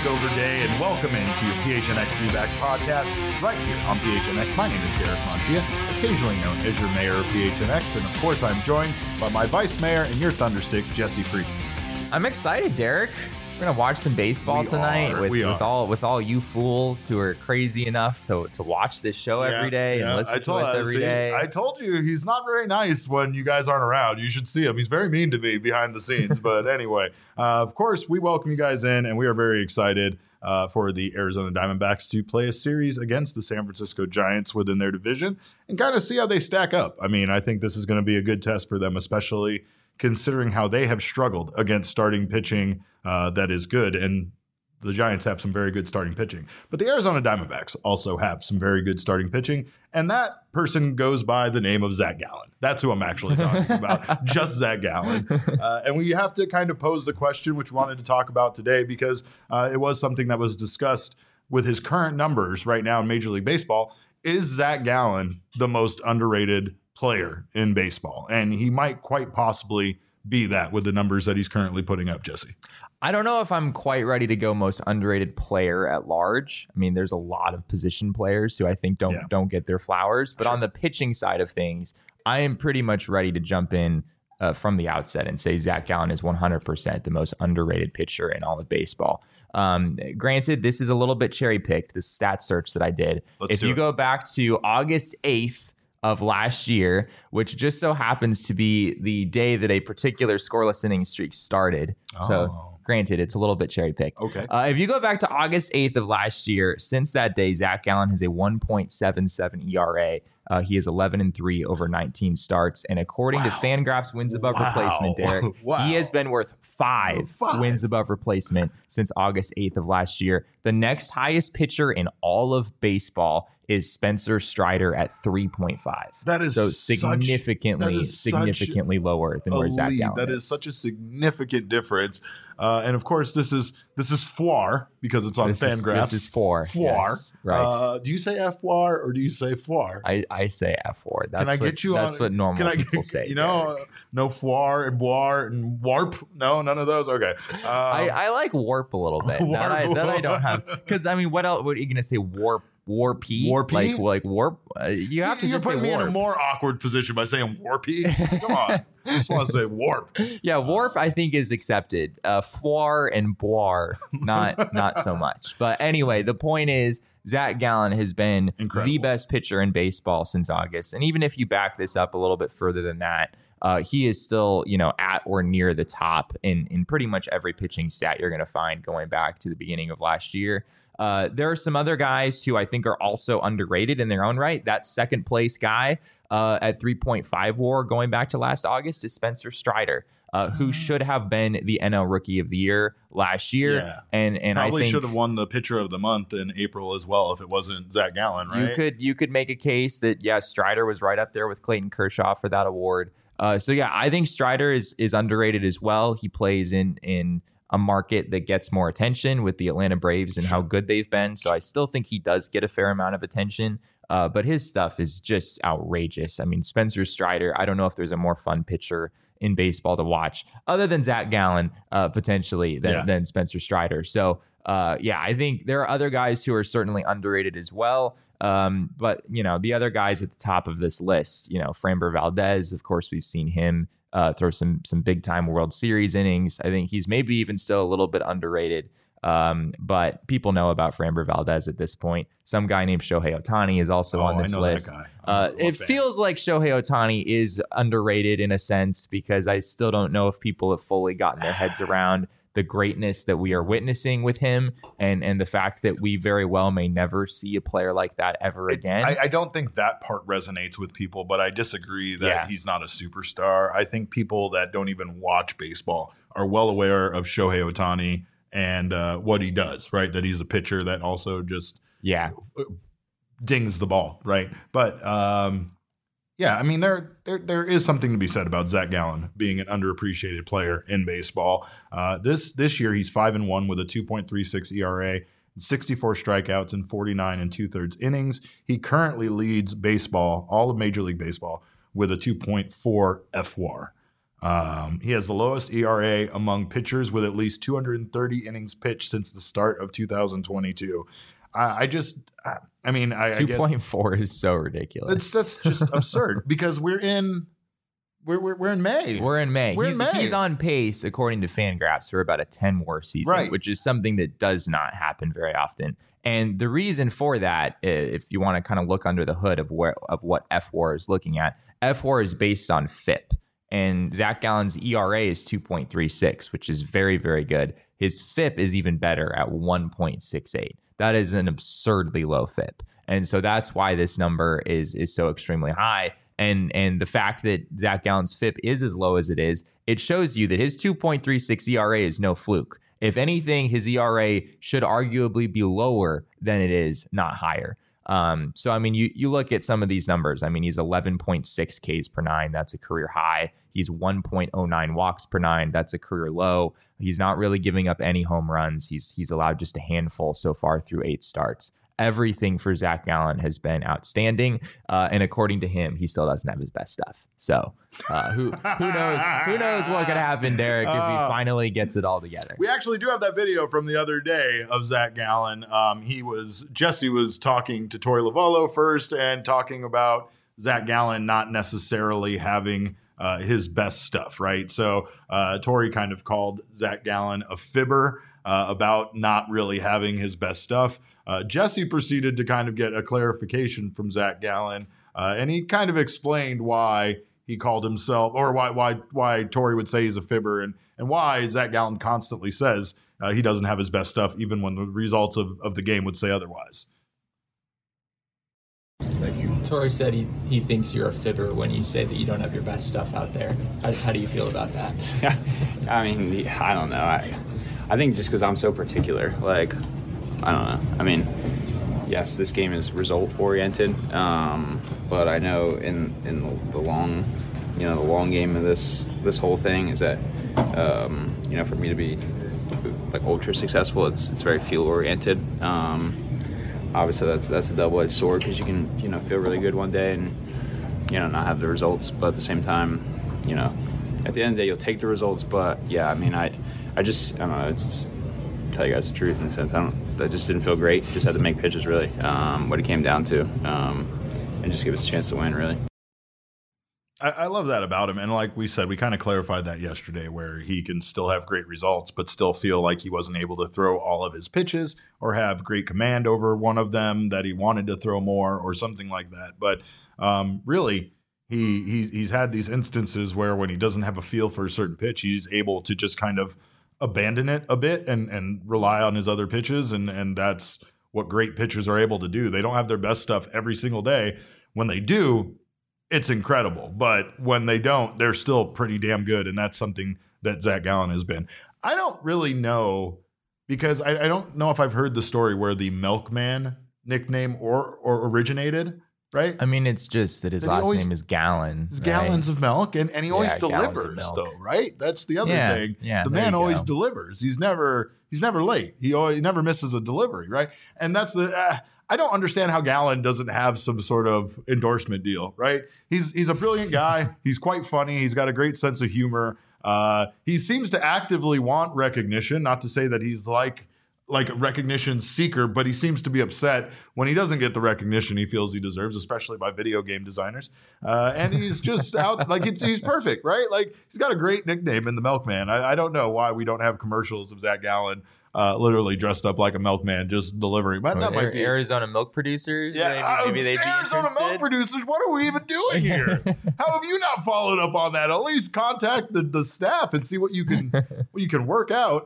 takeover day, and welcome into your PHNX D-Backs podcast right here on PHNX. My name is Derek Moncia, occasionally known as your mayor of PHNX, and of course I'm joined by my vice mayor and your thunderstick, Jesse Freak. I'm excited, Derek. We're gonna watch some baseball tonight with all you fools who are crazy enough to watch this show every day and listen to us every day. I told you he's not very nice when you guys aren't around. You should see him. He's very mean to me behind the scenes. But anyway, of course, we welcome you guys in, and we are very excited for the Arizona Diamondbacks to play a series against the San Francisco Giants within their division and kind of see how they stack up. I mean, I think this is going to be a good test for them, especially considering how they have struggled against starting pitching that is good. And the Giants have some very good starting pitching. But the Arizona Diamondbacks also have some very good starting pitching. And that person goes by the name of Zach Gallen. That's who I'm actually talking about, just Zach Gallen. And we have to kind of pose the question, which we wanted to talk about today, because it was something that was discussed with his current numbers right now in Major League Baseball. Is Zach Gallen the most underrated player in baseball? And he might quite possibly be that with the numbers that he's currently putting up, Jesse. I don't know if I'm quite ready to go most underrated player at large. I mean, there's a lot of position players who I think don't get their flowers. But on the pitching side of things, I am pretty much ready to jump in from the outset and say Zach Gallen is 100% the most underrated pitcher in all of baseball. Granted, this is a little bit cherry picked, this stat search that I did. If you go back to August 8th, of last year, which just so happens to be the day that a particular scoreless inning streak started. So granted, it's a little bit cherry picked. Okay. If you go back to August 8th of last year, since that day, Zach Gallen has a 1.77 ERA. He is 11-3 over 19 starts. And according to Fangraphs wins above replacement, Derek, he has been worth five wins above replacement since August 8th of last year. The next highest pitcher in all of baseball is Spencer Strider at 3.5. That is so significantly lower than where Zach Gallen is. That is such a significant difference. And of course, this is FWAR because it's on Fangraphs. This is FWAR. FWAR. Yes, right. Do you say FWAR or do you say FWAR? I say FWAR. That's what normal people say. You know, no FWAR and BWAR and WARP. No, none of those. Okay. I like WARP a little bit. that I don't have, because I mean, what else? What are you gonna say? WARP? Warpy? Like warp? You have to You're just say putting me warp. in a more awkward position by saying warpy. Come on. I just want to say warp. Yeah, warp I think is accepted. FWAR and BWAR, not so much. But anyway, the point is Zach Gallen has been the best pitcher in baseball since August. And even if you back this up a little bit further than that, he is still, at or near the top in pretty much every pitching stat you're going to find going back to the beginning of last year. There are some other guys who I think are also underrated in their own right. That second place guy at 3.5 WAR going back to last August is Spencer Strider, who should have been the NL Rookie of the Year last year. Yeah. And probably I think should have won the Pitcher of the Month in April as well if it wasn't Zach Gallen, right? You could make a case that, Strider was right up there with Clayton Kershaw for that award. I think Strider is underrated as well. He plays in a market that gets more attention with the Atlanta Braves and how good they've been. So I still think he does get a fair amount of attention, but his stuff is just outrageous. I mean, Spencer Strider, I don't know if there's a more fun pitcher in baseball to watch other than Zach Gallen, potentially than Spencer Strider. So I think there are other guys who are certainly underrated as well. But the other guys at the top of this list, Framber Valdez, of course, we've seen him throw some big time World Series innings. I think he's maybe even still a little bit underrated. But people know about Framber Valdez at this point. Some guy named Shohei Ohtani is also on this list. It feels like Shohei Ohtani is underrated in a sense because I still don't know if people have fully gotten their heads around the greatness that we are witnessing with him and the fact that we very well may never see a player like that ever again. I don't think that part resonates with people, but I disagree that he's not a superstar. I think people that don't even watch baseball are well aware of Shohei Ohtani and what he does, right? That he's a pitcher that also just dings the ball, right? But I mean, there is something to be said about Zach Gallen being an underappreciated player in baseball. This year, he's 5-1 with a 2.36 ERA, 64 strikeouts, and 49 2/3 innings. He currently leads baseball, all of Major League Baseball, with a 2.4 FWAR. He has the lowest ERA among pitchers with at least 230 innings pitched since the start of 2022. I guess 2.4 is so ridiculous. That's just absurd because we're in May. We're in May. He's on pace, according to Fangraphs, for about a 10 WAR season, right, which is something that does not happen very often. And the reason for that, if you want to kind of look under the hood of what FWAR is looking at, FWAR is based on FIP. And Zach Gallen's ERA is 2.36, which is very, very good. His FIP is even better at 1.68. That is an absurdly low FIP. And so that's why this number is so extremely high. And the fact that Zach Gallen's FIP is as low as it is, it shows you that his 2.36 ERA is no fluke. If anything, his ERA should arguably be lower than it is, not higher. So, I mean, you look at some of these numbers. I mean, he's 11.6 Ks per nine. That's a career high. He's 1.09 walks per nine. That's a career low. He's not really giving up any home runs. He's allowed just a handful so far through 8 starts. Everything for Zach Gallen has been outstanding. And according to him, he still doesn't have his best stuff. So who knows what could happen, Derek, if he finally gets it all together. We actually do have that video from the other day of Zach Gallen. Jesse was talking to Torey Lovullo first and talking about Zach Gallen not necessarily having his best stuff, right? So Torey kind of called Zach Gallen a fibber about not really having his best stuff. Jesse proceeded to kind of get a clarification from Zach Gallen, and he kind of explained why he called himself, or why Torey would say he's a fibber, and why Zach Gallen constantly says he doesn't have his best stuff, even when the results of the game would say otherwise. Thank you. Torey said he thinks you're a fibber when you say that you don't have your best stuff out there. How do you feel about that? I mean, I don't know. I think just because I'm so particular, like, I don't know. I mean, yes, this game is result oriented, but I know in the long, the long game of this whole thing is that, for me to be like ultra successful, it's very field oriented. Obviously, that's a double-edged sword because you can feel really good one day and not have the results, but at the same time, at the end of the day you'll take the results. But yeah, I mean, I don't know. It's tell you guys the truth in a sense. That just didn't feel great. Just had to make pitches really. What it came down to, and just give us a chance to win really. I love that about him. And like we said, we kind of clarified that yesterday, where he can still have great results, but still feel like he wasn't able to throw all of his pitches or have great command over one of them that he wanted to throw more or something like that. But really, he's had these instances where when he doesn't have a feel for a certain pitch, he's able to just kind of abandon it a bit and rely on his other pitches. And that's what great pitchers are able to do. They don't have their best stuff every single day. When they do, it's incredible. But when they don't, they're still pretty damn good. And that's something that Zach Gallen has been. I don't really know, because I don't know if I've heard the story where the Milkman nickname or originated, right? I mean, it's just that his last name is Gallen. It's gallons of milk, and he always delivers, though, right? That's the other thing. Yeah, the man always delivers. He's never late. He never misses a delivery, right? And that's the I don't understand how Gallen doesn't have some sort of endorsement deal, right? He's a brilliant guy. He's quite funny. He's got a great sense of humor. He seems to actively want recognition. Not to say that he's like a recognition seeker, but he seems to be upset when he doesn't get the recognition he feels he deserves, especially by video game designers. And he's just out he's perfect, right? Like, he's got a great nickname in the Milkman. I don't know why we don't have commercials of Zach Gallen literally dressed up like a milkman, just delivering. But that might be Arizona milk producers. Yeah, maybe they'd be Arizona interested. Milk producers. What are we even doing here? How have you not followed up on that? At least contact the staff and see what you can work out.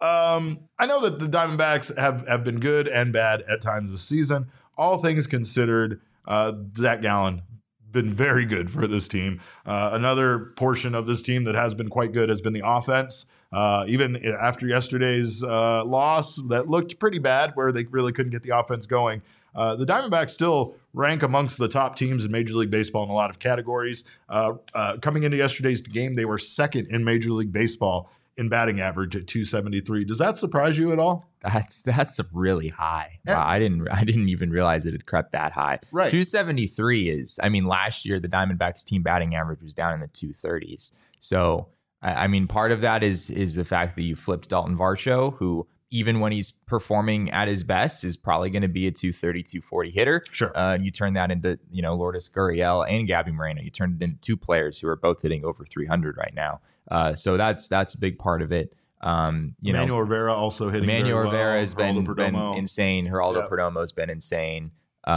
I know that the Diamondbacks have been good and bad at times this season. All things considered, Zach Gallen been very good for this team. Another portion of this team that has been quite good has been the offense. Even after yesterday's loss that looked pretty bad, where they really couldn't get the offense going, the Diamondbacks still rank amongst the top teams in Major League Baseball in a lot of categories. Coming into yesterday's game, they were second in Major League Baseball in batting average at 273. Does that surprise you at all? That's really high. Yeah. Wow, I didn't even realize it had crept that high. Right. 273 is, I mean, last year the Diamondbacks team batting average was down in the 230s. So, I mean, part of that is the fact that you flipped Dalton Varsho, who even when he's performing at his best is probably going to be a 230, 240 hitter. Sure. You turn that into, Lourdes Gurriel and Gabby Moreno. You turned it into two players who are both hitting over 300 right now. So that's a big part of it. Emmanuel Rivera also hitting. Emmanuel very well. Rivera has been insane. Geraldo Perdomo has been insane.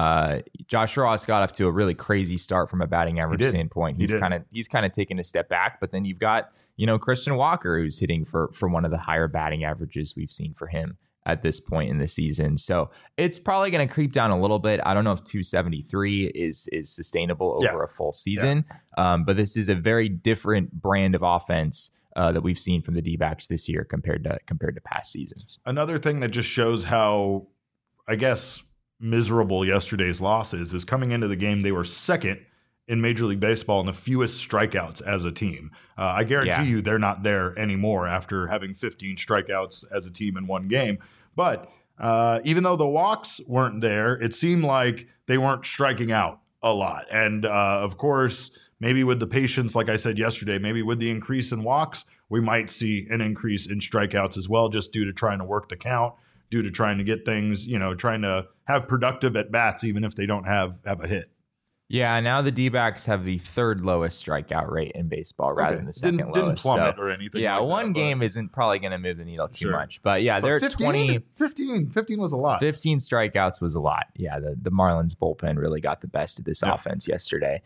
Josh Ross got off to a really crazy start from a batting average standpoint. He's kind of taken a step back, but then you've got, Christian Walker, who's hitting for one of the higher batting averages we've seen for him at this point in the season. So it's probably going to creep down a little bit. I don't know if 273 is sustainable over a full season, but this is a very different brand of offense that we've seen from the D-backs this year compared to past seasons. Another thing that just shows how, I guess, miserable yesterday's loss is coming into the game, they were second in Major League Baseball in the fewest strikeouts as a team. I guarantee you they're not there anymore after having 15 strikeouts as a team in one game. But even though the walks weren't there, it seemed like they weren't striking out a lot. And of course, maybe with the patience, like I said yesterday, maybe with the increase in walks, we might see an increase in strikeouts as well, just due to trying to work the count, due to trying to get things, trying to have productive at-bats, even if they don't have a hit. Yeah, now the D-backs have the third lowest strikeout rate in baseball rather than the second lowest. Didn't plummet or anything. Yeah, like one that, game isn't probably going to move the needle too much. But yeah, they're 15 was a lot. 15 strikeouts was a lot. Yeah, the Marlins bullpen really got the best of this offense yesterday.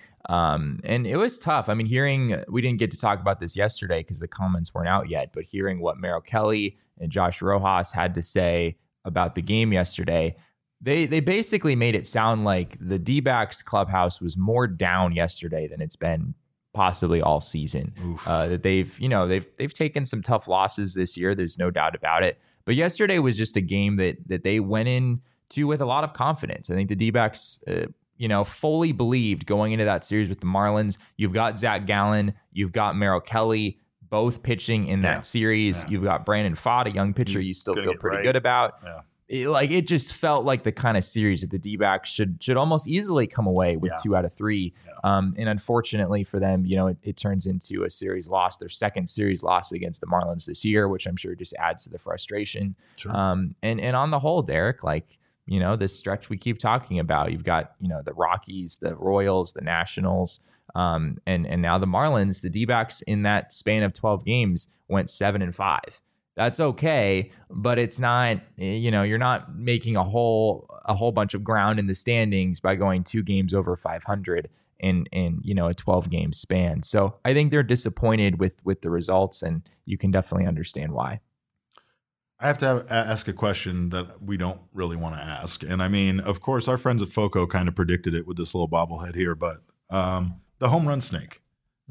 And it was tough. I mean, we didn't get to talk about this yesterday because the comments weren't out yet, but hearing what Merrill Kelly and Josh Rojas had to say about the game yesterday, They basically made it sound like the D-backs clubhouse was more down yesterday than it's been possibly all season. That they've taken some tough losses this year. There's no doubt about it. But yesterday was just a game that they went into with a lot of confidence. I think the D-backs, fully believed going into that series with the Marlins. You've got Zach Gallen, you've got Merrill Kelly, both pitching in that series. Yeah. You've got Brandon Pfaadt, a young pitcher you still feel pretty good about. Yeah. It just felt like the kind of series that the D-backs should almost easily come away with 2 out of 3. Yeah. And unfortunately for them, it turns into a series loss, their second series loss against the Marlins this year, which I'm sure just adds to the frustration. Sure. And on the whole, Derek, this stretch we keep talking about, you've got, the Rockies, the Royals, the Nationals, and now the Marlins. The D-backs in that span of 12 games went 7-5. That's okay, but it's not, you're not making a whole bunch of ground in the standings by going 2 games over 500 in a 12 game span. So I think they're disappointed with the results, and you can definitely understand why. I have to ask a question that we don't really want to ask. And I mean, of course, our friends at FOCO kind of predicted it with this little bobblehead here, but the home run snake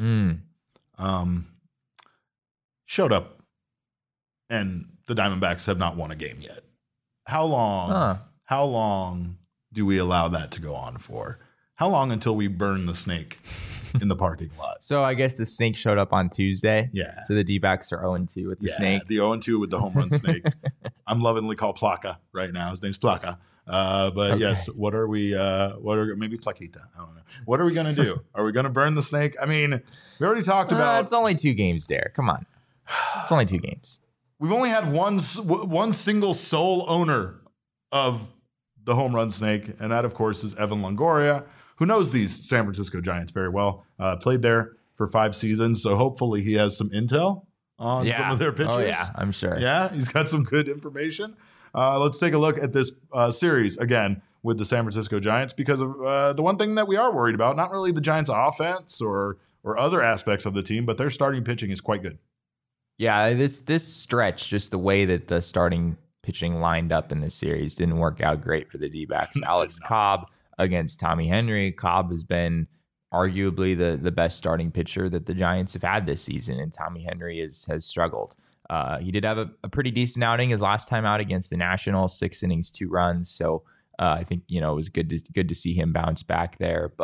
showed up. And the Diamondbacks have not won a game yet. How long do we allow that to go on for? How long until we burn the snake in the parking lot? So I guess the snake showed up on Tuesday. Yeah. So the D-backs are 0-2 with the snake. The 0-2 with the home run snake. I'm lovingly called Plaka right now. His name's Plaka. But yes, what are we, maybe Plaquita? I don't know. What are we going to do? Are we going to burn the snake? I mean, we already talked about. It's only 2 games, Derek. Come on. It's only 2 games. We've only had one single sole owner of the home run snake, and that, of course, is Evan Longoria, who knows these San Francisco Giants very well. Played there for 5 seasons, so hopefully he has some intel on some of their pitchers. Oh, yeah, I'm sure. Yeah, he's got some good information. Let's take a look at this series again with the San Francisco Giants, because of the one thing that we are worried about, not really the Giants' offense or other aspects of the team, but their starting pitching is quite good. Yeah, this stretch, just the way that the starting pitching lined up in this series didn't work out great for the D-backs. Alex Cobb against Tommy Henry. Cobb has been arguably the best starting pitcher that the Giants have had this season, and Tommy Henry has struggled. He did have a pretty decent outing his last time out against the Nationals, 6 innings, 2 runs. So I think it was good to see him bounce back there. But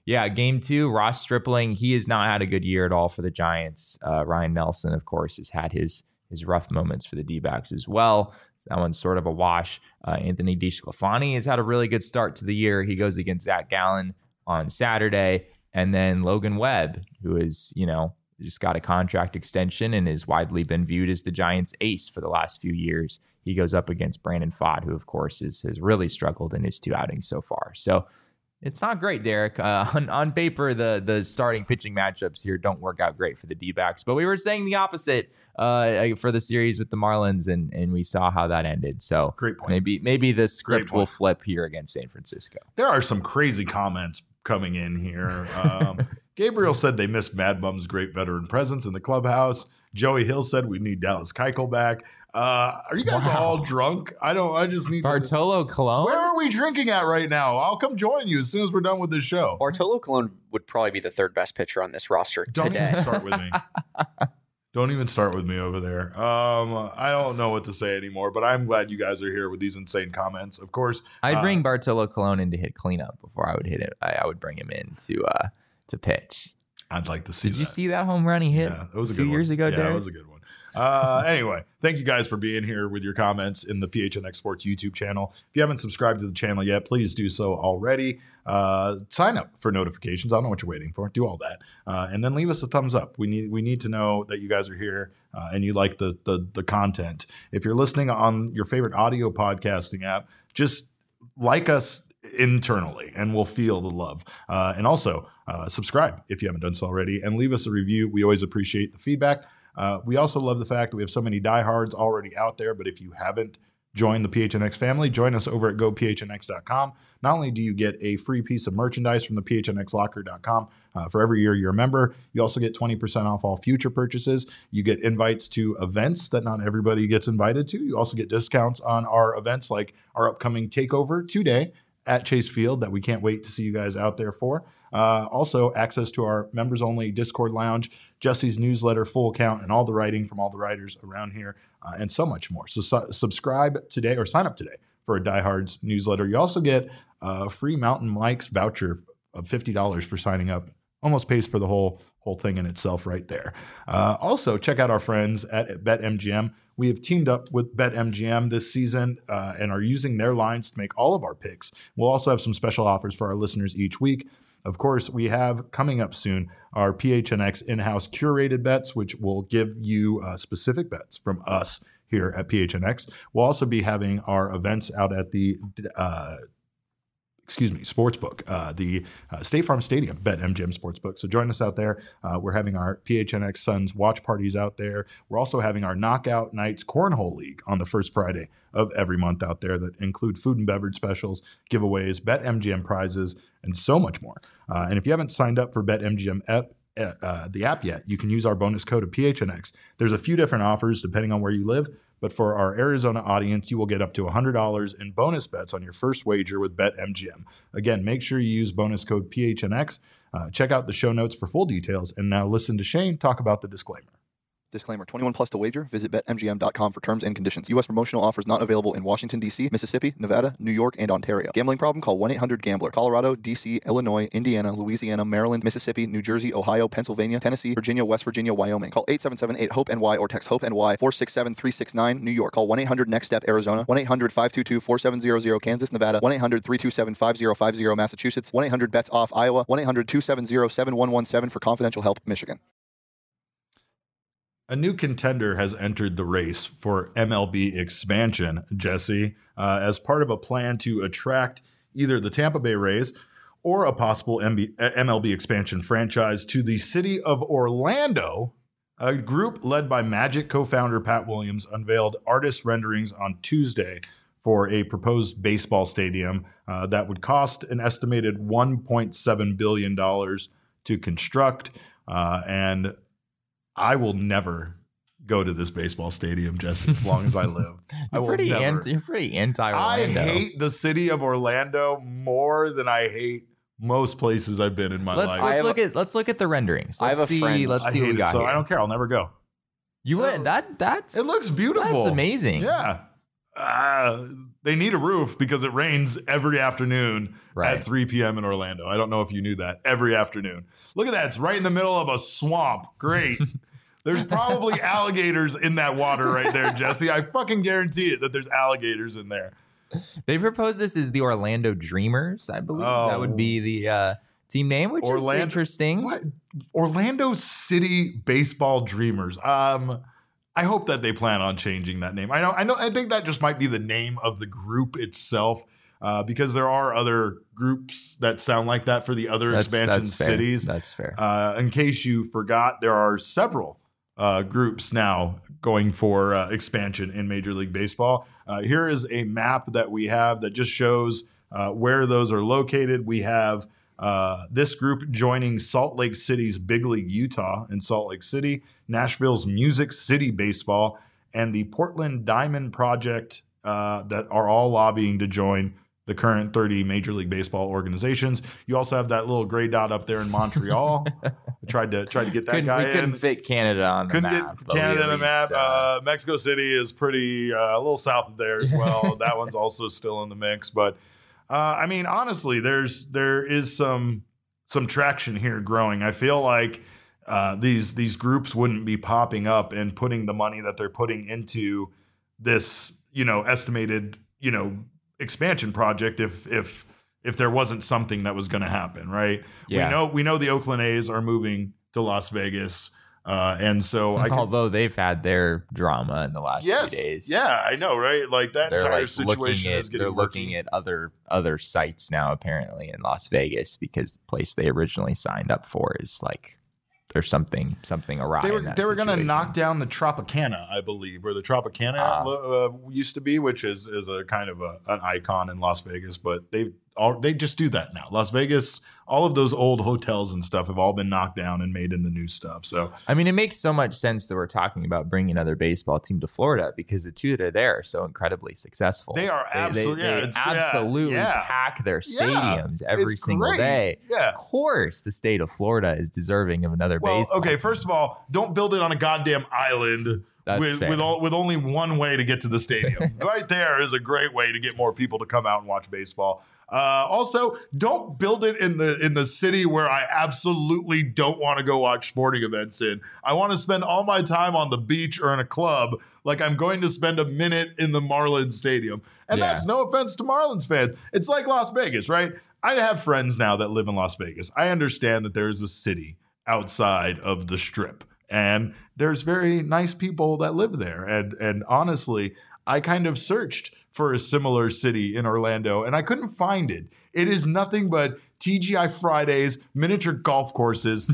yeah, game 2, Ross Stripling, he has not had a good year at all for the Giants. Ryan Nelson, of course, has had his rough moments for the D-backs as well. That one's sort of a wash. Anthony DeSclafani has had a really good start to the year. He goes against Zach Gallen on Saturday. And then Logan Webb, who is, just got a contract extension and has widely been viewed as the Giants' ace for the last few years. He goes up against Brandon Pfaadt, who, of course, has really struggled in his 2 outings so far. So it's not great, Derek. On paper, the starting pitching matchups here don't work out great for the D-backs. But we were saying the opposite for the series with the Marlins, and we saw how that ended. So great point. Maybe the script will flip here against San Francisco. There are some crazy comments coming in here. Gabriel said they missed Mad Bum's great veteran presence in the clubhouse. Joey Hill said we need Dallas Keuchel back. Are you guys all drunk? I just need Bartolo Colon. Where are we drinking at right now? I'll come join you as soon as we're done with this show. Bartolo Colon would probably be the 3rd best pitcher on this roster Don't today. even start with me. Don't even start with me over there. I don't know what to say anymore, but I'm glad you guys are here with these insane comments. Of course, I'd bring Bartolo Colon in to hit cleanup before I would hit it. I would bring him in to pitch. I'd like to see. Did you see that home run he hit? Yeah, it was a few good years ago, Yeah, Derek? that was a good one. Anyway, thank you guys for being here with your comments in the PHNX Sports YouTube channel. If you haven't subscribed to the channel yet, please do so already. Sign up for notifications. I don't know what you're waiting for. Do all that, and then leave us a thumbs up. We need to know that you guys are here and you like the content. If you're listening on your favorite audio podcasting app, just like us internally and we'll feel the love. And also subscribe if you haven't done so already, and leave us a review. We always appreciate the feedback. We also love the fact that we have so many diehards already out there, but if you haven't joined the PHNX family, join us over at gophnx.com. Not only do you get a free piece of merchandise from the phnxlocker.com for every year you're a member, you also get 20% off all future purchases. You get invites to events that not everybody gets invited to. You also get discounts on our events like our upcoming Takeover today at Chase Field that we can't wait to see you guys out there for. Also, access to our members-only Discord lounge, Jesse's newsletter, full account, and all the writing from all the writers around here, and so much more. So subscribe today or sign up today for a Diehards newsletter. You also get a free Mountain Mike's voucher of $50 for signing up. Almost pays for the whole thing in itself right there. Also, check out our friends at BetMGM. We have teamed up with BetMGM this season and are using their lines to make all of our picks. We'll also have some special offers for our listeners each week. Of course, we have coming up soon our PHNX in-house curated bets, which will give you specific bets from us here at PHNX. We'll also be having our events out at the Sportsbook, the State Farm Stadium, BetMGM Sportsbook. So join us out there. We're having our PHNX Suns watch parties out there. We're also having our Knockout Nights Cornhole League on the first Friday of every month out there that include food and beverage specials, giveaways, BetMGM prizes, and so much more. And if you haven't signed up for BetMGM the app yet, you can use our bonus code of PHNX. There's a few different offers depending on where you live. But for our Arizona audience, you will get up to $100 in bonus bets on your first wager with BetMGM. Again, make sure you use bonus code PHNX. Check out the show notes for full details. And now listen to Shane talk about the disclaimer. Disclaimer, 21 plus to wager. Visit BetMGM.com for terms and conditions. U.S. promotional offers not available in Washington, D.C., Mississippi, Nevada, New York, and Ontario. Gambling problem? Call 1-800-GAMBLER. Colorado, D.C., Illinois, Indiana, Louisiana, Maryland, Mississippi, New Jersey, Ohio, Pennsylvania, Tennessee, Virginia, West Virginia, Wyoming. Call 877-8-HOPE-NY or text HOPE-NY 467-369, New York. Call 1-800-NEXT-STEP, Arizona. 1-800-522-4700, Kansas, Nevada. 1-800-327-5050, Massachusetts. 1-800-BETS-OFF, Iowa. 1-800-270-7117 for confidential help, Michigan. A new contender has entered the race for MLB expansion, Jesse, as part of a plan to attract either the Tampa Bay Rays or a possible MLB expansion franchise to the city of Orlando. A group led by Magic co-founder Pat Williams unveiled artist renderings on Tuesday for a proposed baseball stadium that would cost an estimated $1.7 billion to construct, and I will never go to this baseball stadium, Jesse, as long as I live. I will never. You're pretty anti-Orlando. I hate the city of Orlando more than I hate most places I've been in my life. Let's look at the renderings. I have a friend. Let's I see what hate we it, got so here. I don't care. I'll never go. You went that's It looks beautiful. That's amazing. Yeah. They need a roof because it rains every afternoon Right. at 3 p.m. in Orlando. I don't know if you knew that. Every afternoon. Look at that. It's right in the middle of a swamp. Great. There's probably alligators in that water right there, Jesse. I fucking guarantee it that there's alligators in there. They proposed this as the Orlando Dreamers, I believe. That would be the team name, which is interesting. What? Orlando City Baseball Dreamers. I hope that they plan on changing that name. I think that just might be the name of the group itself, because there are other groups that sound like that for the other expansion cities. That's fair. In case you forgot, there are several groups now going for expansion in Major League Baseball. Here is a map that we have that just shows where those are located. We have this group joining Salt Lake City's Big League Utah in Salt Lake City, Nashville's Music City Baseball, and the Portland Diamond Project that are all lobbying to join the current 30 Major League Baseball organizations. You also have that little gray dot up there in Montreal. I tried to get that guy in. We couldn't fit Canada on the map. Get Canada on the map. Mexico City is pretty a little south of there as well. That one's also still in the mix. But I mean, honestly, there is some traction here growing. I feel like these groups wouldn't be popping up and putting the money that they're putting into this, estimated, expansion project if there wasn't something that was going to happen, right? Yeah. We know the Oakland A's are moving to Las Vegas, and so although they've had their drama in the last few days. Yeah, I know, right? Like that they're entire situation is getting they're looking at other sites now apparently in Las Vegas because the place they originally signed up for is like there's something awry. They were going to knock down the Tropicana, I believe, where the Tropicana used to be, which is a kind of an icon in Las Vegas. But they just do that now. Las Vegas, all of those old hotels and stuff have all been knocked down and made into new stuff. So I mean, it makes so much sense that we're talking about bringing another baseball team to Florida because the two that are there are so incredibly successful. They are absolutely, they absolutely pack their stadiums every single day. Yeah. Of course, the state of Florida is deserving of another baseball. Okay, first of all, don't build it on a goddamn island. With only one way to get to the stadium. Right there is a great way to get more people to come out and watch baseball. Also, don't build it in the city where I absolutely don't want to go watch sporting events in. I want to spend all my time on the beach or in a club like I'm going to spend a minute in the Marlins Stadium. And that's no offense to Marlins fans. It's like Las Vegas, right? I have friends now that live in Las Vegas. I understand that there is a city outside of the Strip. And there's very nice people that live there. And honestly, I kind of searched for a similar city in Orlando and I couldn't find it. It is nothing but TGI Fridays, miniature golf courses,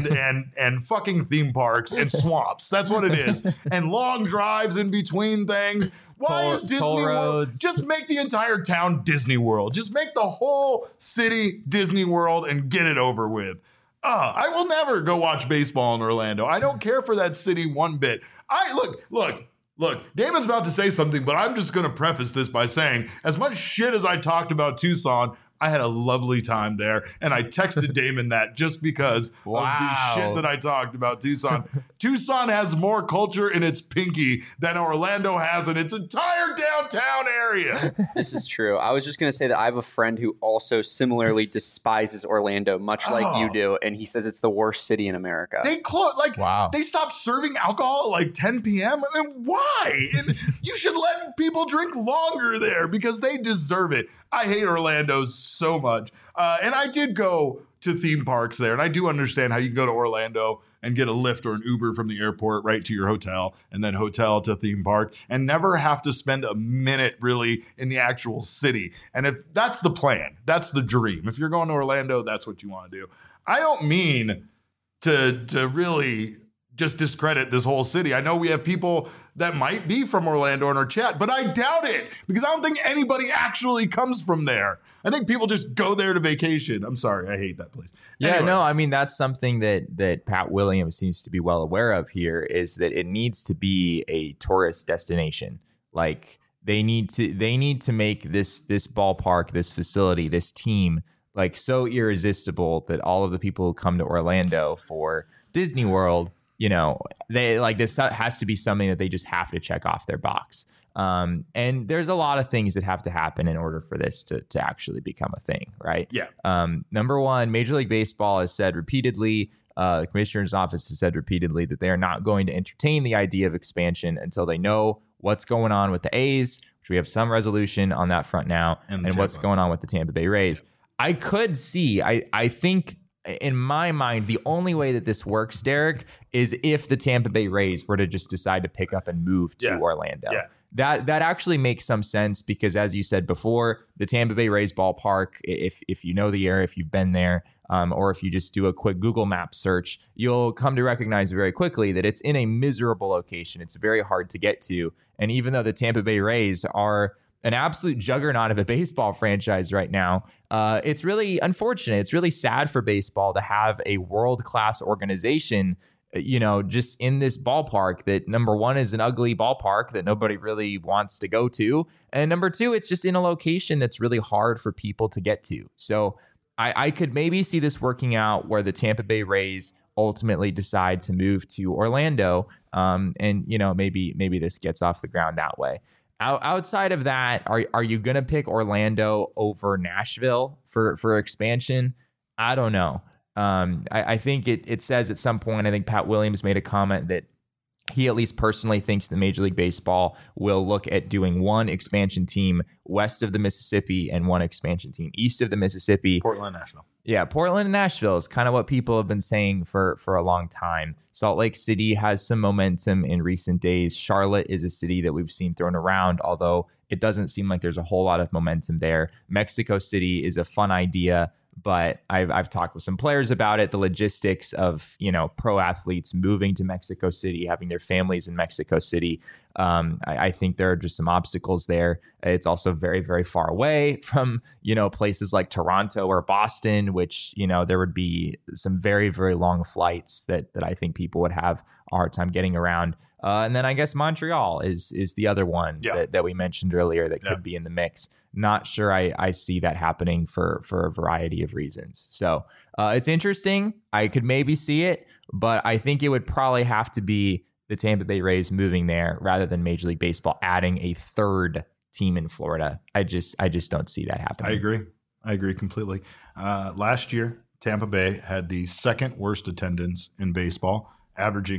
and fucking theme parks and swamps. That's what it is. And long drives in between things. Why is Disney World? Just make the entire town Disney World. Just make the whole city Disney World and get it over with. I will never go watch baseball in Orlando. I don't care for that city one bit. Look, Damon's about to say something, but I'm just going to preface this by saying, as much shit as I talked about Tucson, I had a lovely time there, and I texted Damon that just because of the shit that I talked about Tucson. Tucson has more culture in its pinky than Orlando has in its entire downtown area. This is true. I was just going to say that I have a friend who also similarly despises Orlando, much like you do, and he says it's the worst city in America. They they stopped serving alcohol at like 10 p.m. I mean, why? And you should let people drink longer there because they deserve it. I hate Orlando so much. And I did go to theme parks there. And I do understand how you can go to Orlando and get a Lyft or an Uber from the airport right to your hotel and then hotel to theme park and never have to spend a minute really in the actual city. And if that's the plan, that's the dream. If you're going to Orlando, that's what you want to do. I don't mean to really just discredit this whole city. I know we have people that might be from Orlando in our chat, but I doubt it because I don't think anybody actually comes from there. I think people just go there to vacation. I'm sorry. I hate that place. Yeah, no, I mean, that's something that Pat Williams seems to be well aware of here is that it needs to be a tourist destination. Like they need to make this ballpark, this facility, this team like so irresistible that all of the people who come to Orlando for Disney World, they like this has to be something that they just have to check off their box. And there's a lot of things that have to happen in order for this to actually become a thing, right? Yeah. Number one, Major League Baseball has said repeatedly, the commissioner's office has said repeatedly that they are not going to entertain the idea of expansion until they know what's going on with the A's, which we have some resolution on that front now, and what's going on with the Tampa Bay Rays. I could see, I think in my mind, the only way that this works, Derek, is if the Tampa Bay Rays were to just decide to pick up and move to Orlando. Yeah. That actually makes some sense because, as you said before, the Tampa Bay Rays ballpark, if you know the area, if you've been there, or if you just do a quick Google Map search, you'll come to recognize very quickly that it's in a miserable location. It's very hard to get to. And even though the Tampa Bay Rays are an absolute juggernaut of a baseball franchise right now, it's really unfortunate. It's really sad for baseball to have a world-class organization, just in this ballpark that, number one, is an ugly ballpark that nobody really wants to go to. And number two, it's just in a location that's really hard for people to get to. So I could maybe see this working out where the Tampa Bay Rays ultimately decide to move to Orlando. And maybe this gets off the ground that way. Outside of that, are you going to pick Orlando over Nashville for expansion? I don't know. I think it says at some point, I think Pat Williams made a comment that he at least personally thinks that Major League Baseball will look at doing one expansion team west of the Mississippi and one expansion team east of the Mississippi. Portland, Nashville. Yeah, Portland and Nashville is kind of what people have been saying for a long time. Salt Lake City has some momentum in recent days. Charlotte is a city that we've seen thrown around, although it doesn't seem like there's a whole lot of momentum there. Mexico City is a fun idea, but I've talked with some players about it. The logistics of, pro athletes moving to Mexico City, having their families in Mexico City. I think there are just some obstacles there. It's also very, very far away from, places like Toronto or Boston, which, there would be some very, very long flights that I think people would have a hard time getting around. And then I guess Montreal is the other one that we mentioned earlier that could be in the mix. Not sure I see that happening for a variety of reasons. So it's interesting. I could maybe see it, but I think it would probably have to be the Tampa Bay Rays moving there rather than Major League Baseball adding a third team in Florida. I just don't see that happening. I agree completely. Last year, Tampa Bay had the second worst attendance in baseball, averaging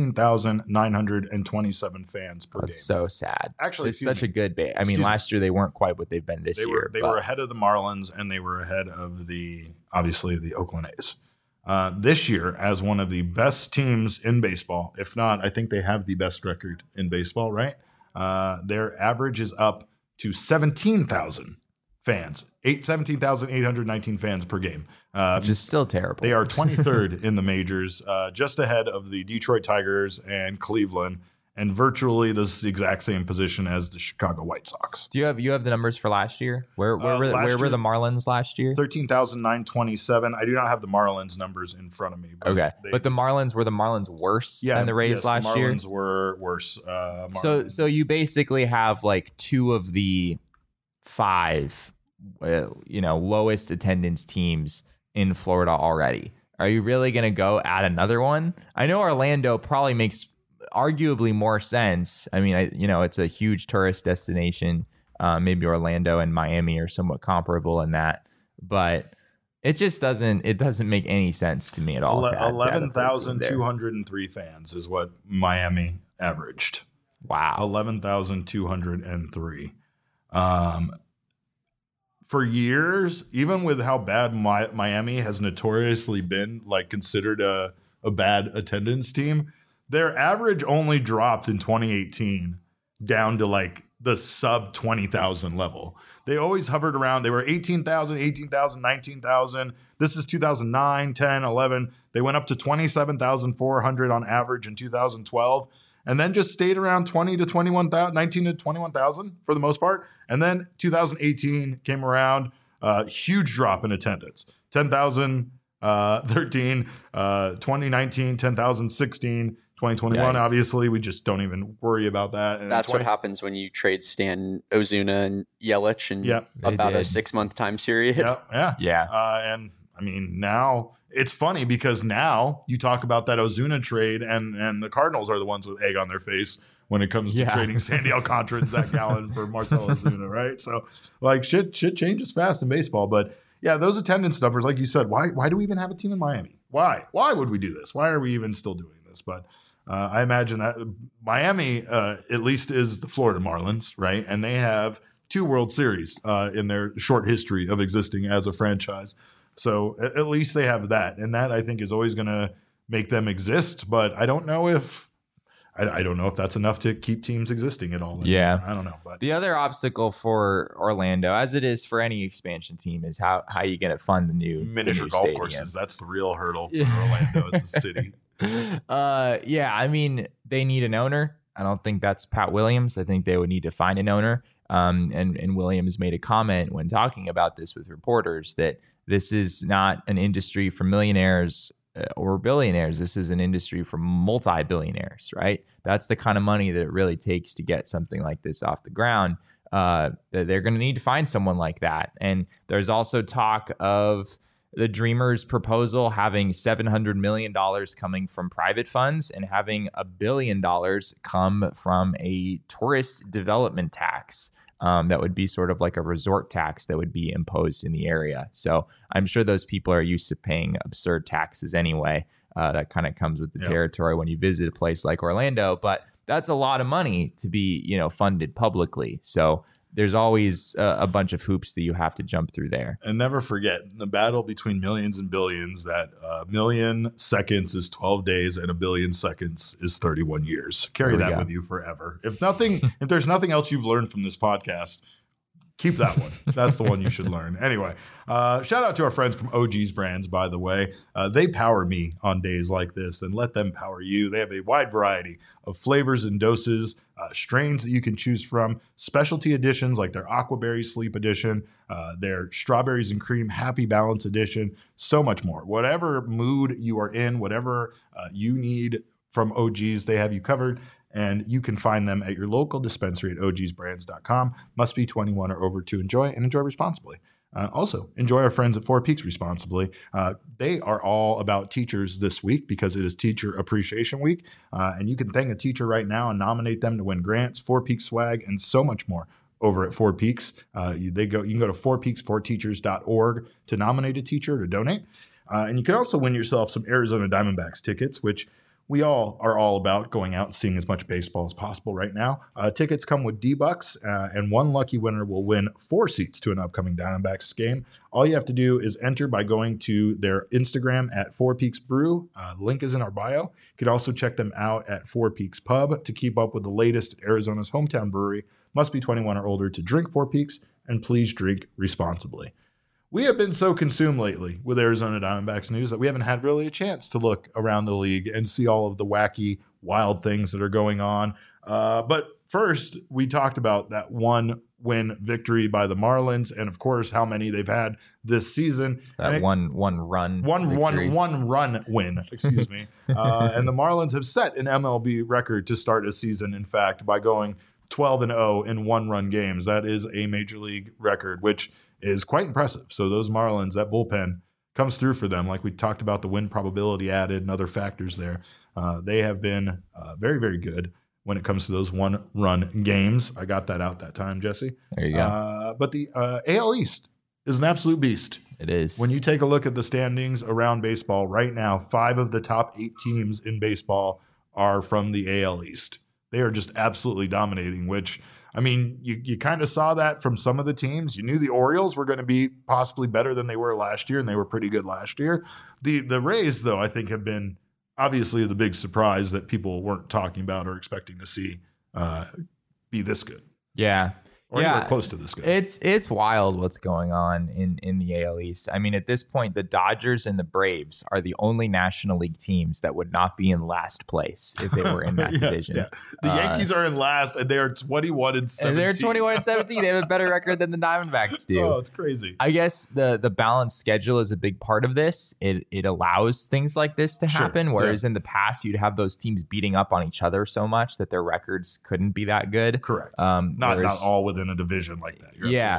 13,927 fans per game. That's so sad. Actually, it's such a good base. I mean, last year they weren't quite what they've been this year. They were ahead of the Marlins, and they were ahead of the Oakland A's. This year, as one of the best teams in baseball, if not, I think they have the best record in baseball, right? Their average is up to 17,000 fans, 17,819 fans per game. Which is still terrible. They are 23rd in the majors, just ahead of the Detroit Tigers and Cleveland, and virtually the exact same position as the Chicago White Sox. Do you have the numbers for last year? Where were the Marlins last year? 13,927. I do not have the Marlins numbers in front of me. But but the Marlins worse than the Rays last year? The Marlins were worse. So you basically have like two of the five lowest attendance teams in Florida already. Are you really going to go add another one? I know Orlando probably makes arguably more sense. I mean, it's a huge tourist destination. Maybe Orlando and Miami are somewhat comparable in that, but it just doesn't make any sense to me at all. 11,203 fans is what Miami averaged. Wow. 11,203. For years, even with how bad Miami has notoriously been, like considered a bad attendance team, their average only dropped in 2018 down to like the sub 20,000 level. They always hovered around. They were 18,000, 19,000. This is 2009, 10, 11. They went up to 27,400 on average in 2012. And then just stayed around 19 to 21,000 for the most part. And then 2018 came around, huge drop in attendance. 10,013, 2019, 10,016, 2021. Yikes. Obviously, we just don't even worry about that. And that's what happens when you trade Stan, Ozuna, and Yelich in about a 6-month time period. Yeah. And I mean, now it's funny because now you talk about that Ozuna trade and the Cardinals are the ones with egg on their face when it comes to trading Sandy Alcantara and Zach Gallen for Marcell Ozuna, right? So like shit changes fast in baseball. But yeah, those attendance numbers, like you said, why do we even have a team in Miami? Why would we do this? Why are we even still doing this? But I imagine that Miami at least is the Florida Marlins, right? And they have 2 World Series in their short history of existing as a franchise. So at least they have that. And that I think is always going to make them exist. But I don't know if that's enough to keep teams existing at all. Anymore. Yeah. I don't know. But the other obstacle for Orlando, as it is for any expansion team, is how you going to fund the new miniature new golf stadium. courses. That's the real hurdle for Orlando as a city. Yeah, I mean, they need an owner. I don't think that's Pat Williams. I think they would need to find an owner. And Williams made a comment when talking about this with reporters that this is not an industry for millionaires or billionaires. This is an industry for multi-billionaires, right? That's the kind of money that it really takes to get something like this off the ground. They're going to need to find someone like that. And there's also talk of the Dreamers proposal having $700 million coming from private funds and having $1 billion come from a tourist development tax. That would be sort of like a resort tax that would be imposed in the area. So I'm sure those people are used to paying absurd taxes anyway. That kind of comes with the territory when you visit a place like Orlando. But that's a lot of money to be, funded publicly. So there's always a bunch of hoops that you have to jump through there. And never forget the battle between millions and billions, that a million seconds is 12 days and a billion seconds is 31 years. Carry that with you forever. If there's nothing else you've learned from this podcast, keep that one. That's the one you should learn. Anyway, shout out to our friends from OG's Brands, by the way. They power me on days like this, and let them power you. They have a wide variety of flavors and doses, strains that you can choose from, specialty editions like their Aquaberry Sleep Edition, their Strawberries and Cream Happy Balance Edition, so much more. Whatever mood you are in, whatever you need from OG's, they have you covered. And you can find them at your local dispensary at ogsbrands.com. Must be 21 or over to enjoy, and enjoy responsibly. Also, enjoy our friends at Four Peaks responsibly. They are all about teachers this week because it is Teacher Appreciation Week. And you can thank a teacher right now and nominate them to win grants, Four Peaks swag, and so much more over at Four Peaks. You can go to fourpeaks4teachers.org to nominate a teacher to donate. And you can also win yourself some Arizona Diamondbacks tickets, which we all are all about going out and seeing as much baseball as possible right now. Tickets come with D-Bucks, and one lucky winner will win 4 seats to an upcoming Diamondbacks game. All you have to do is enter by going to their Instagram at Four Peaks Brew. Link is in our bio. You can also check them out at Four Peaks Pub to keep up with the latest at Arizona's hometown brewery. Must be 21 or older to drink Four Peaks, and please drink responsibly. We have been so consumed lately with Arizona Diamondbacks news that we haven't had really a chance to look around the league and see all of the wacky, wild things that are going on. But first, we talked about that 1-win victory by the Marlins, and of course, how many they've had this season. That one run win. Excuse me. And the Marlins have set an MLB record to start a season. In fact, by going 12-0 in 1-run games, that is a major league record, which is quite impressive. So those Marlins, that bullpen comes through for them. Like we talked about the win probability added and other factors there. They have been very, very good when it comes to those 1-run games. I got that out that time, Jesse. There you go. But the AL East is an absolute beast. It is. When you take a look at the standings around baseball right now, 5 of the top 8 teams in baseball are from the AL East. They are just absolutely dominating, which, I mean, you kind of saw that from some of the teams. You knew the Orioles were going to be possibly better than they were last year, and they were pretty good last year. The Rays, though, I think have been obviously the big surprise that people weren't talking about or expecting to see be this good. Yeah. Or anywhere close to this good. It's wild what's going on in the AL East. I mean, at this point, the Dodgers and the Braves are the only National League teams that would not be in last place if they were in that division. Yeah. The Yankees are in last, and they are 21-17. And they're 21-17. They have a better record than the Diamondbacks do. Oh, it's crazy. I guess the balanced schedule is a big part of this. It allows things like this to happen, whereas in the past, you'd have those teams beating up on each other so much that their records couldn't be that good. Correct. Not all within a division like that. You're absolutely right.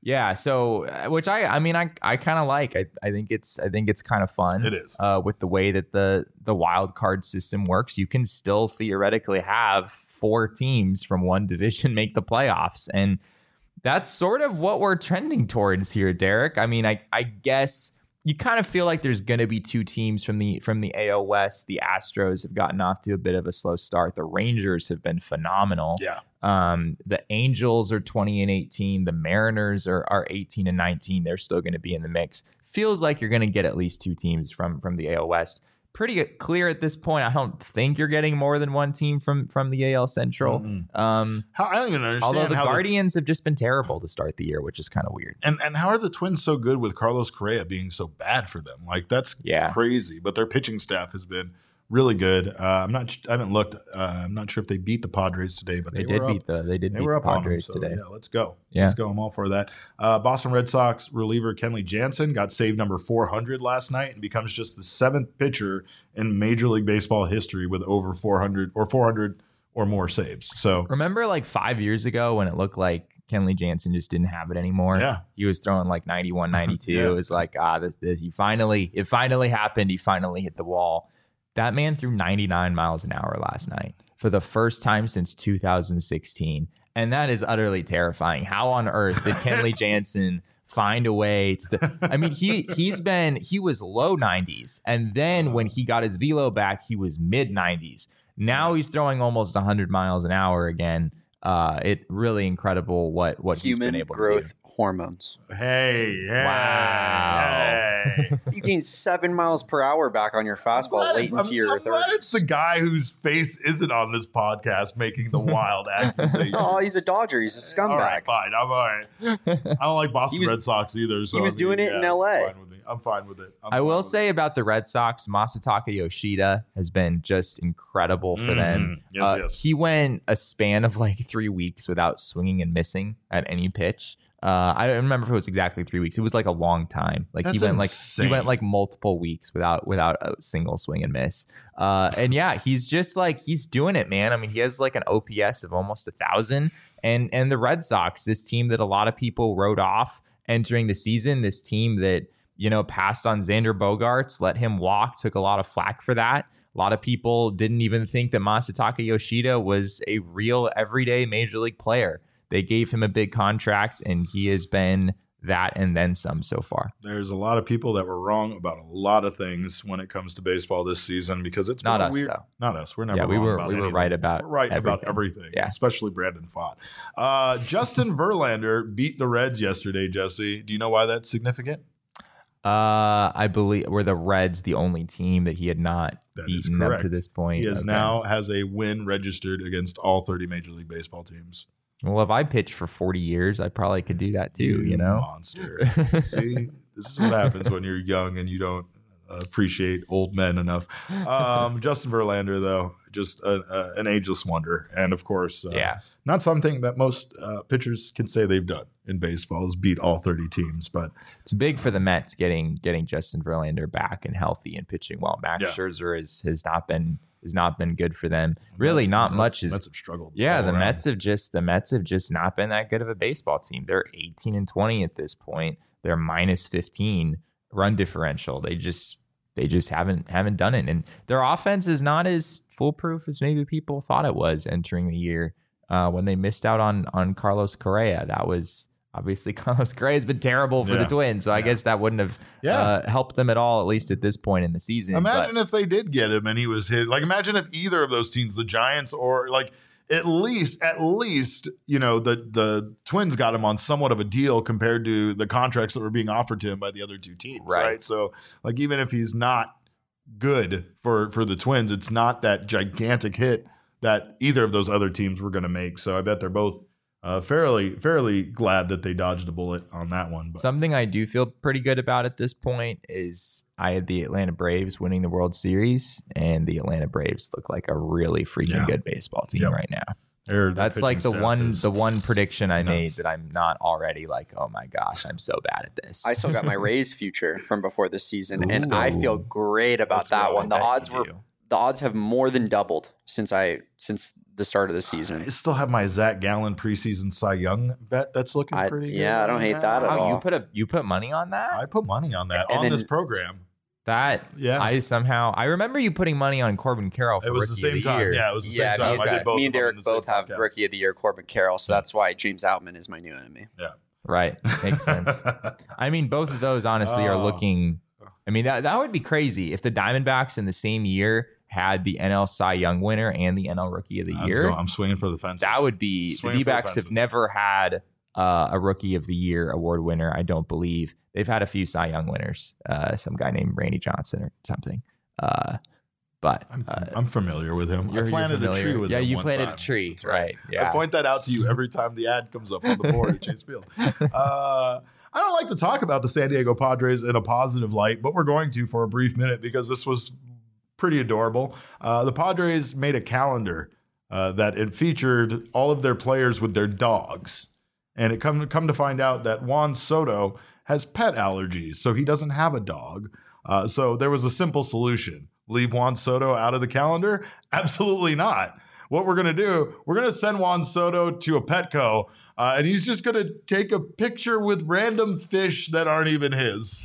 Yeah, so which I mean I kind of like. I think it's kind of fun. It is. With the way that the wild card system works. You can still theoretically have 4 teams from one division make the playoffs, and that's sort of what we're trending towards here, Derek. I mean, I guess you kind of feel like there's going to be 2 teams from the AL West. The Astros have gotten off to a bit of a slow start. The Rangers have been phenomenal. Yeah. The Angels are 20-18. The Mariners are 18-19. They're still going to be in the mix. Feels like you're going to get at least 2 teams from the AL West. Pretty clear at this point. I don't think you're getting more than 1 team from the AL Central. I don't even understand. Although the how Guardians have just been terrible to start the year, which is kind of weird. And how are the Twins so good with Carlos Correa being so bad for them? Like, that's crazy. But their pitching staff has been really good. I haven't looked. I'm not sure if they beat the Padres today, but they did beat the Padres today. Yeah, let's go. Let's go. I'm all for that. Boston Red Sox reliever Kenley Jansen got save number 400 last night and becomes just the 7th pitcher in Major League Baseball history with over 400 or more saves. So remember, like 5 years ago when it looked like Kenley Jansen just didn't have it anymore. Yeah. He was throwing like 91, 92. Yeah. It was like, it finally happened. He finally hit the wall. That man threw 99 miles an hour last night for the first time since 2016. And that is utterly terrifying. How on earth did Kenley Jansen find a way to I mean, he was low 90s. And then when he got his velo back, he was mid 90s. Now he's throwing almost 100 miles an hour again. It really incredible what he's been able to do. Human growth hormones. Hey, Wow. You gain 7 miles per hour back on your fastball late into your I'm glad it's the guy whose face isn't on this podcast making the wild accusations. Oh, he's a Dodger. He's a scumbag. All right, fine. I'm all right. I don't like Boston Red Sox either. So he was doing it in LA. I'm fine with it. I will say about the Red Sox, Masataka Yoshida has been just incredible for them. Yes. He went a span of like 3 weeks without swinging and missing at any pitch. I don't remember if it was exactly 3 weeks. It was like a long time. Like That's he went insane. like multiple weeks without a single swing and miss. And yeah, he's just like he's doing it, man. I mean, he has like an OPS of almost 1,000. And the Red Sox, this team that a lot of people wrote off entering the season, this team that passed on Xander Bogaerts, let him walk, took a lot of flack for that. A lot of people didn't even think that Masataka Yoshida was a real everyday major league player. They gave him a big contract, and he has been that and then some so far. There's a lot of people that were wrong about a lot of things when it comes to baseball this season because it's not been us weird. though. Not us. We're never. Yeah, we wrong were about we were anything. right about We're right everything. about everything. Yeah. Especially Brandon Pfaadt. Justin Verlander beat the Reds yesterday. Jesse, do you know why that's significant? I believe were the Reds the only team that he had not beaten up to this point. He now has a win registered against all 30 Major League Baseball teams. Well, if I pitched for 40 years, I probably could do that too, Monster. See, this is what happens when you're young and you don't appreciate old men enough. Justin Verlander, though, just an ageless wonder. And of course, not something that most pitchers can say they've done in baseball is beat all 30 teams. But it's big for the Mets getting Justin Verlander back and healthy and pitching well. Max Scherzer has not been good for them. Really, not much is. Mets have struggled. Yeah, the Mets have just not been that good of a baseball team. They're 18-20 at this point. They're minus 15 run differential. They just haven't done it, and their offense is not as foolproof as maybe people thought it was entering the year when they missed out on Carlos Correa. That was. Obviously, Carlos Correa has been terrible for the Twins, so I guess that wouldn't have helped them at all, at least at this point in the season. Imagine if they did get him and he was hit. Like, imagine if either of those teams, the Giants or like at least the Twins got him on somewhat of a deal compared to the contracts that were being offered to him by the other two teams, right? So, like, even if he's not good for the Twins, it's not that gigantic hit that either of those other teams were going to make. So, I bet they're both. Fairly glad that they dodged a bullet on that one. But. Something I do feel pretty good about at this point is I had the Atlanta Braves winning the World Series, and the Atlanta Braves look like a really freaking good baseball team right now. That's like the one prediction I made that I'm not already like, oh my gosh, I'm so bad at this. I still got my Rays future from before this season, and I feel great about that one. The odds have more than doubled since the start of the season. I still have my Zach Gallen preseason Cy Young bet that's looking pretty good. Yeah, I don't hate that at all. You put money on that? I put money on that on this program. I remember you putting money on Corbin Carroll for it was Rookie the same of the time. Year. Yeah, it was the same time. I did both. Me and Derek both have podcast. Rookie of the Year Corbin Carroll, so that's why James Outman is my new enemy. Yeah. Right. Makes sense. I mean, both of those honestly are looking. I mean, that would be crazy if the Diamondbacks in the same year had the NL Cy Young winner and the NL Rookie of the Year. I'm swinging for the fences. That would be. The D-backs have never had a Rookie of the Year award winner. I don't believe they've had a few Cy Young winners. Some guy named Randy Johnson or something. But I'm familiar with him. I planted a tree with him. Yeah, you one planted time. a tree. That's right. Yeah. I point that out to you every time the ad comes up on the board at Chase Field. I don't like to talk about the San Diego Padres in a positive light, but we're going to for a brief minute because this was pretty adorable. The Padres made a calendar that it featured all of their players with their dogs. And it come to find out that Juan Soto has pet allergies, so he doesn't have a dog. So there was a simple solution. Leave Juan Soto out of the calendar? Absolutely not. What we're going to do, we're going to send Juan Soto to a Petco, and he's just going to take a picture with random fish that aren't even his.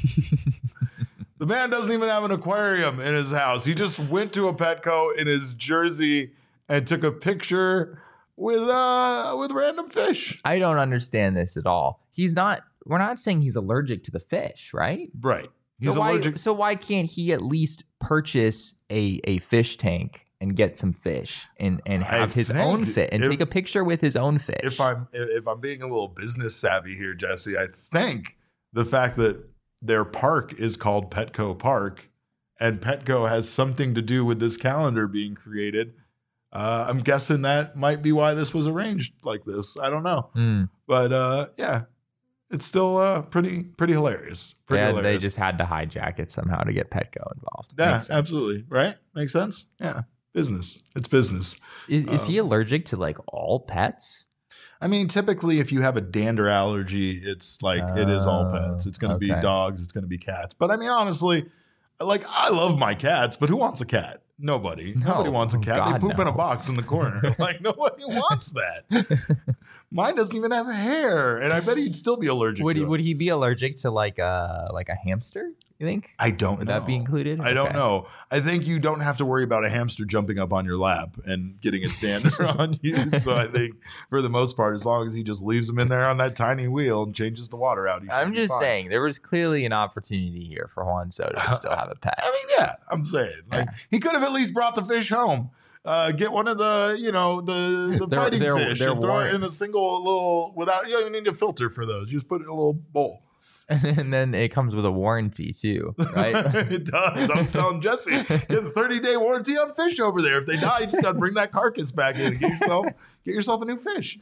The man doesn't even have an aquarium in his house. He just went to a Petco in his jersey and took a picture with random fish. I don't understand this at all. We're not saying he's allergic to the fish, right? Right. He's allergic. So why can't he at least purchase a fish tank and get some fish and have his own fish and take a picture with his own fish? If I'm being a little business savvy here, Jesse, I think the fact that their park is called Petco Park and Petco has something to do with this calendar being created. I'm guessing that might be why this was arranged like this. I don't know. But yeah, it's still pretty hilarious. Hilarious. They just had to hijack it somehow to get Petco involved. Yeah, absolutely. Right? Makes sense? Yeah. Business. It's business. Is he allergic to like all pets? I mean, typically if you have a dander allergy, it's like it is all pets. It's going to be dogs. It's going to be cats. But I mean, honestly, like I love my cats, but who wants a cat? Nobody. Nobody wants a cat. God, they poop in a box in the corner. Like nobody wants that. Mine doesn't even have hair, and I bet he'd still be allergic. Would he be allergic to like a hamster? You think? I don't know. Would that be included? I don't know. I think you don't have to worry about a hamster jumping up on your lap and getting its dander on you. So I think for the most part, as long as he just leaves them in there on that tiny wheel and changes the water out, I'm just saying there was clearly an opportunity here for Juan Soto to still have a pet. I mean, yeah, I'm saying he could have at least brought the fish home. Get one of the, the fighting fish and throw it in a single little you don't even need a filter for those. You just put it in a little bowl. And then it comes with a warranty too, right? It does. I was telling Jesse, you have a 30-day warranty on fish over there. If they die, you just got to bring that carcass back in and get yourself a new fish.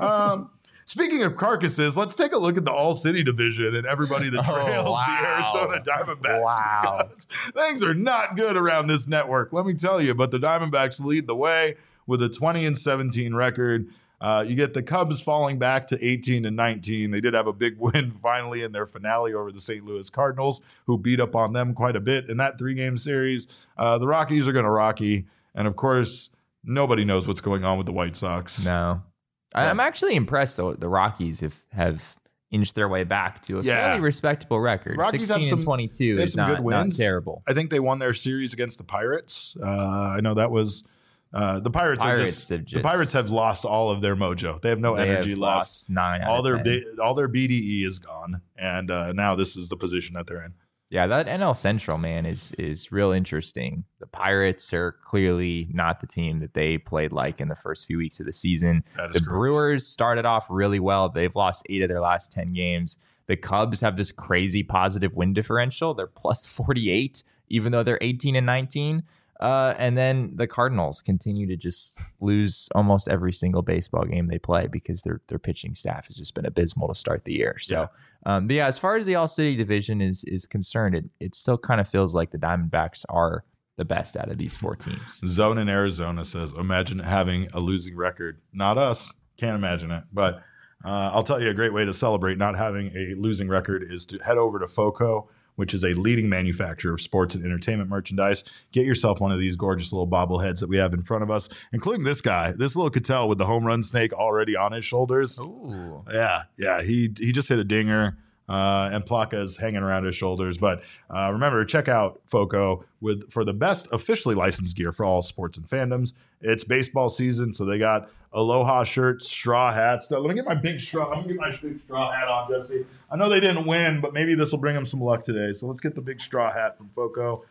Speaking of carcasses, let's take a look at the All-City division and everybody that trails the Arizona Diamondbacks. Wow. Things are not good around this network, let me tell you. But the Diamondbacks lead the way with a 20-17 record. You get the Cubs falling back to 18-19. They did have a big win finally in their finale over the St. Louis Cardinals, who beat up on them quite a bit in that 3-game series. The Rockies are going to Rocky. And of course, nobody knows what's going on with the White Sox. No. I'm actually impressed, though. The Rockies have inched their way back to a fairly respectable record. Rockies 16-22 is not terrible. I think they won their series against the Pirates. I know that was the Pirates. The Pirates have lost all of their mojo. They have no energy left. Lost 9 out all of their 10. all their BDE is gone, and now this is the position that they're in. Yeah, that NL Central, man, is real interesting. The Pirates are clearly not the team that they played like in the first few weeks of the season. The Brewers started off really well. They've lost 8 of their last 10 games. The Cubs have this crazy positive win differential. They're plus 48, even though they're 18-19. And then the Cardinals continue to just lose almost every single baseball game they play because their pitching staff has just been abysmal to start the year. So, but yeah, as far as the All-City division is concerned, it still kind of feels like the Diamondbacks are the best out of these 4 teams. Zone in Arizona says, imagine having a losing record. Not us. Can't imagine it. But I'll tell you a great way to celebrate not having a losing record is to head over to FOCO, which is a leading manufacturer of sports and entertainment merchandise. Get yourself one of these gorgeous little bobbleheads that we have in front of us, including this guy, this little Cattell with the home run snake already on his shoulders. Ooh. Yeah. He just hit a dinger. And Plaka's hanging around his shoulders. But remember, check out FOCO for the best officially licensed gear for all sports and fandoms. It's baseball season, so they got Aloha shirts, straw hats. Let me get my big straw. I'm going to get my big straw hat on, Jesse. I know they didn't win, but maybe this will bring them some luck today. So let's get the big straw hat from FOCO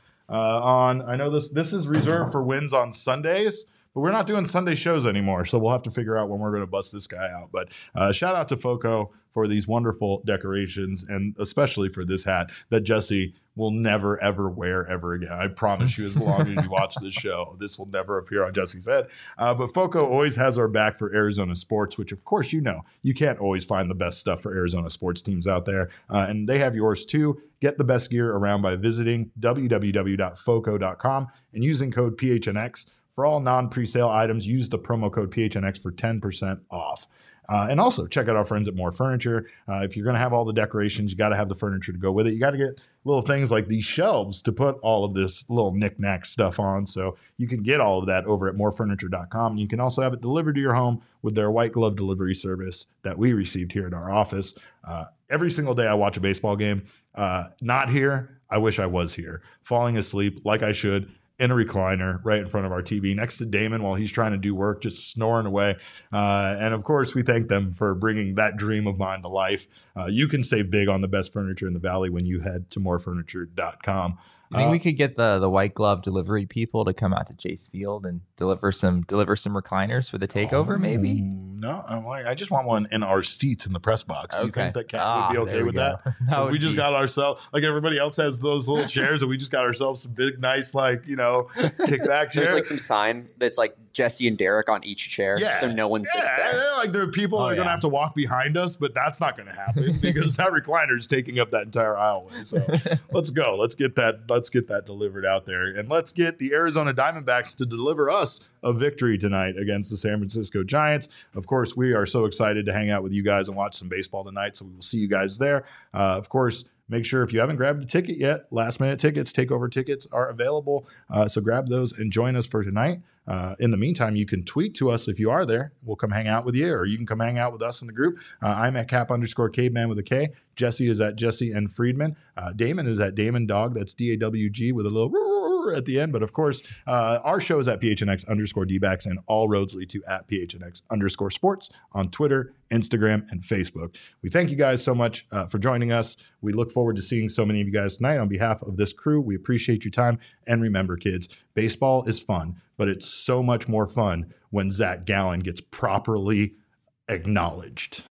on. I know this is reserved for wins on Sundays, but we're not doing Sunday shows anymore, so we'll have to figure out when we're going to bust this guy out. But shout out to FOCO for these wonderful decorations, and especially for this hat that Jesse will never, ever wear ever again. I promise you, as long as you watch this show, this will never appear on Jesse's head. But FOCO always has our back for Arizona sports, which, of course, you know. You can't always find the best stuff for Arizona sports teams out there, and they have yours too. Get the best gear around by visiting www.foco.com and using code PHNX. For all non-presale items, use the promo code PHNX for 10% off. And also, check out our friends at More Furniture. If you're going to have all the decorations, you got to have the furniture to go with it. You got to get little things like these shelves to put all of this little knick-knack stuff on. So you can get all of that over at morefurniture.com. You can also have it delivered to your home with their white glove delivery service that we received here in our office. Every single day I watch a baseball game. Not here. I wish I was here. Falling asleep like I should, in a recliner right in front of our TV next to Damon while he's trying to do work, just snoring away. And of course, we thank them for bringing that dream of mine to life. You can save big on the best furniture in the Valley when you head to morefurniture.com. You think we could get the white glove delivery people to come out to Chase Field and deliver some recliners for the takeover? Maybe. No, I just want one in our seats in the press box. Do you think that Cat would be okay with that? That we just got ourselves, like everybody else has those little chairs, and we just got ourselves some big, nice, kickback chairs. There's like some sign that's like Jesse and Derek on each chair, so no one sits there. Like there are people that are going to have to walk behind us, but that's not going to happen because that recliner is taking up that entire aisleway. So let's go. Let's get that delivered out there, and let's get the Arizona Diamondbacks to deliver us a victory tonight against the San Francisco Giants. Of course, we are so excited to hang out with you guys and watch some baseball tonight, so we will see you guys there. Of course, make sure if you haven't grabbed a ticket yet, last-minute tickets, takeover tickets are available, so grab those and join us for tonight. In the meantime, you can tweet to us if you are there. We'll come hang out with you, or you can come hang out with us in the group. I'm at Cap_Caveman with a K. Jesse is at Jesse N. Friedman. Damon is at Damon Dog. That's DAWG with a little at the end. But of course, our show is at PHNX_DBacks, and all roads lead to at PHNX_sports on Twitter, Instagram, and Facebook. We thank you guys so much for joining us. We look forward to seeing so many of you guys tonight. On behalf of this crew, we appreciate your time. And remember, kids, baseball is fun, but it's so much more fun when Zach Gallen gets properly acknowledged.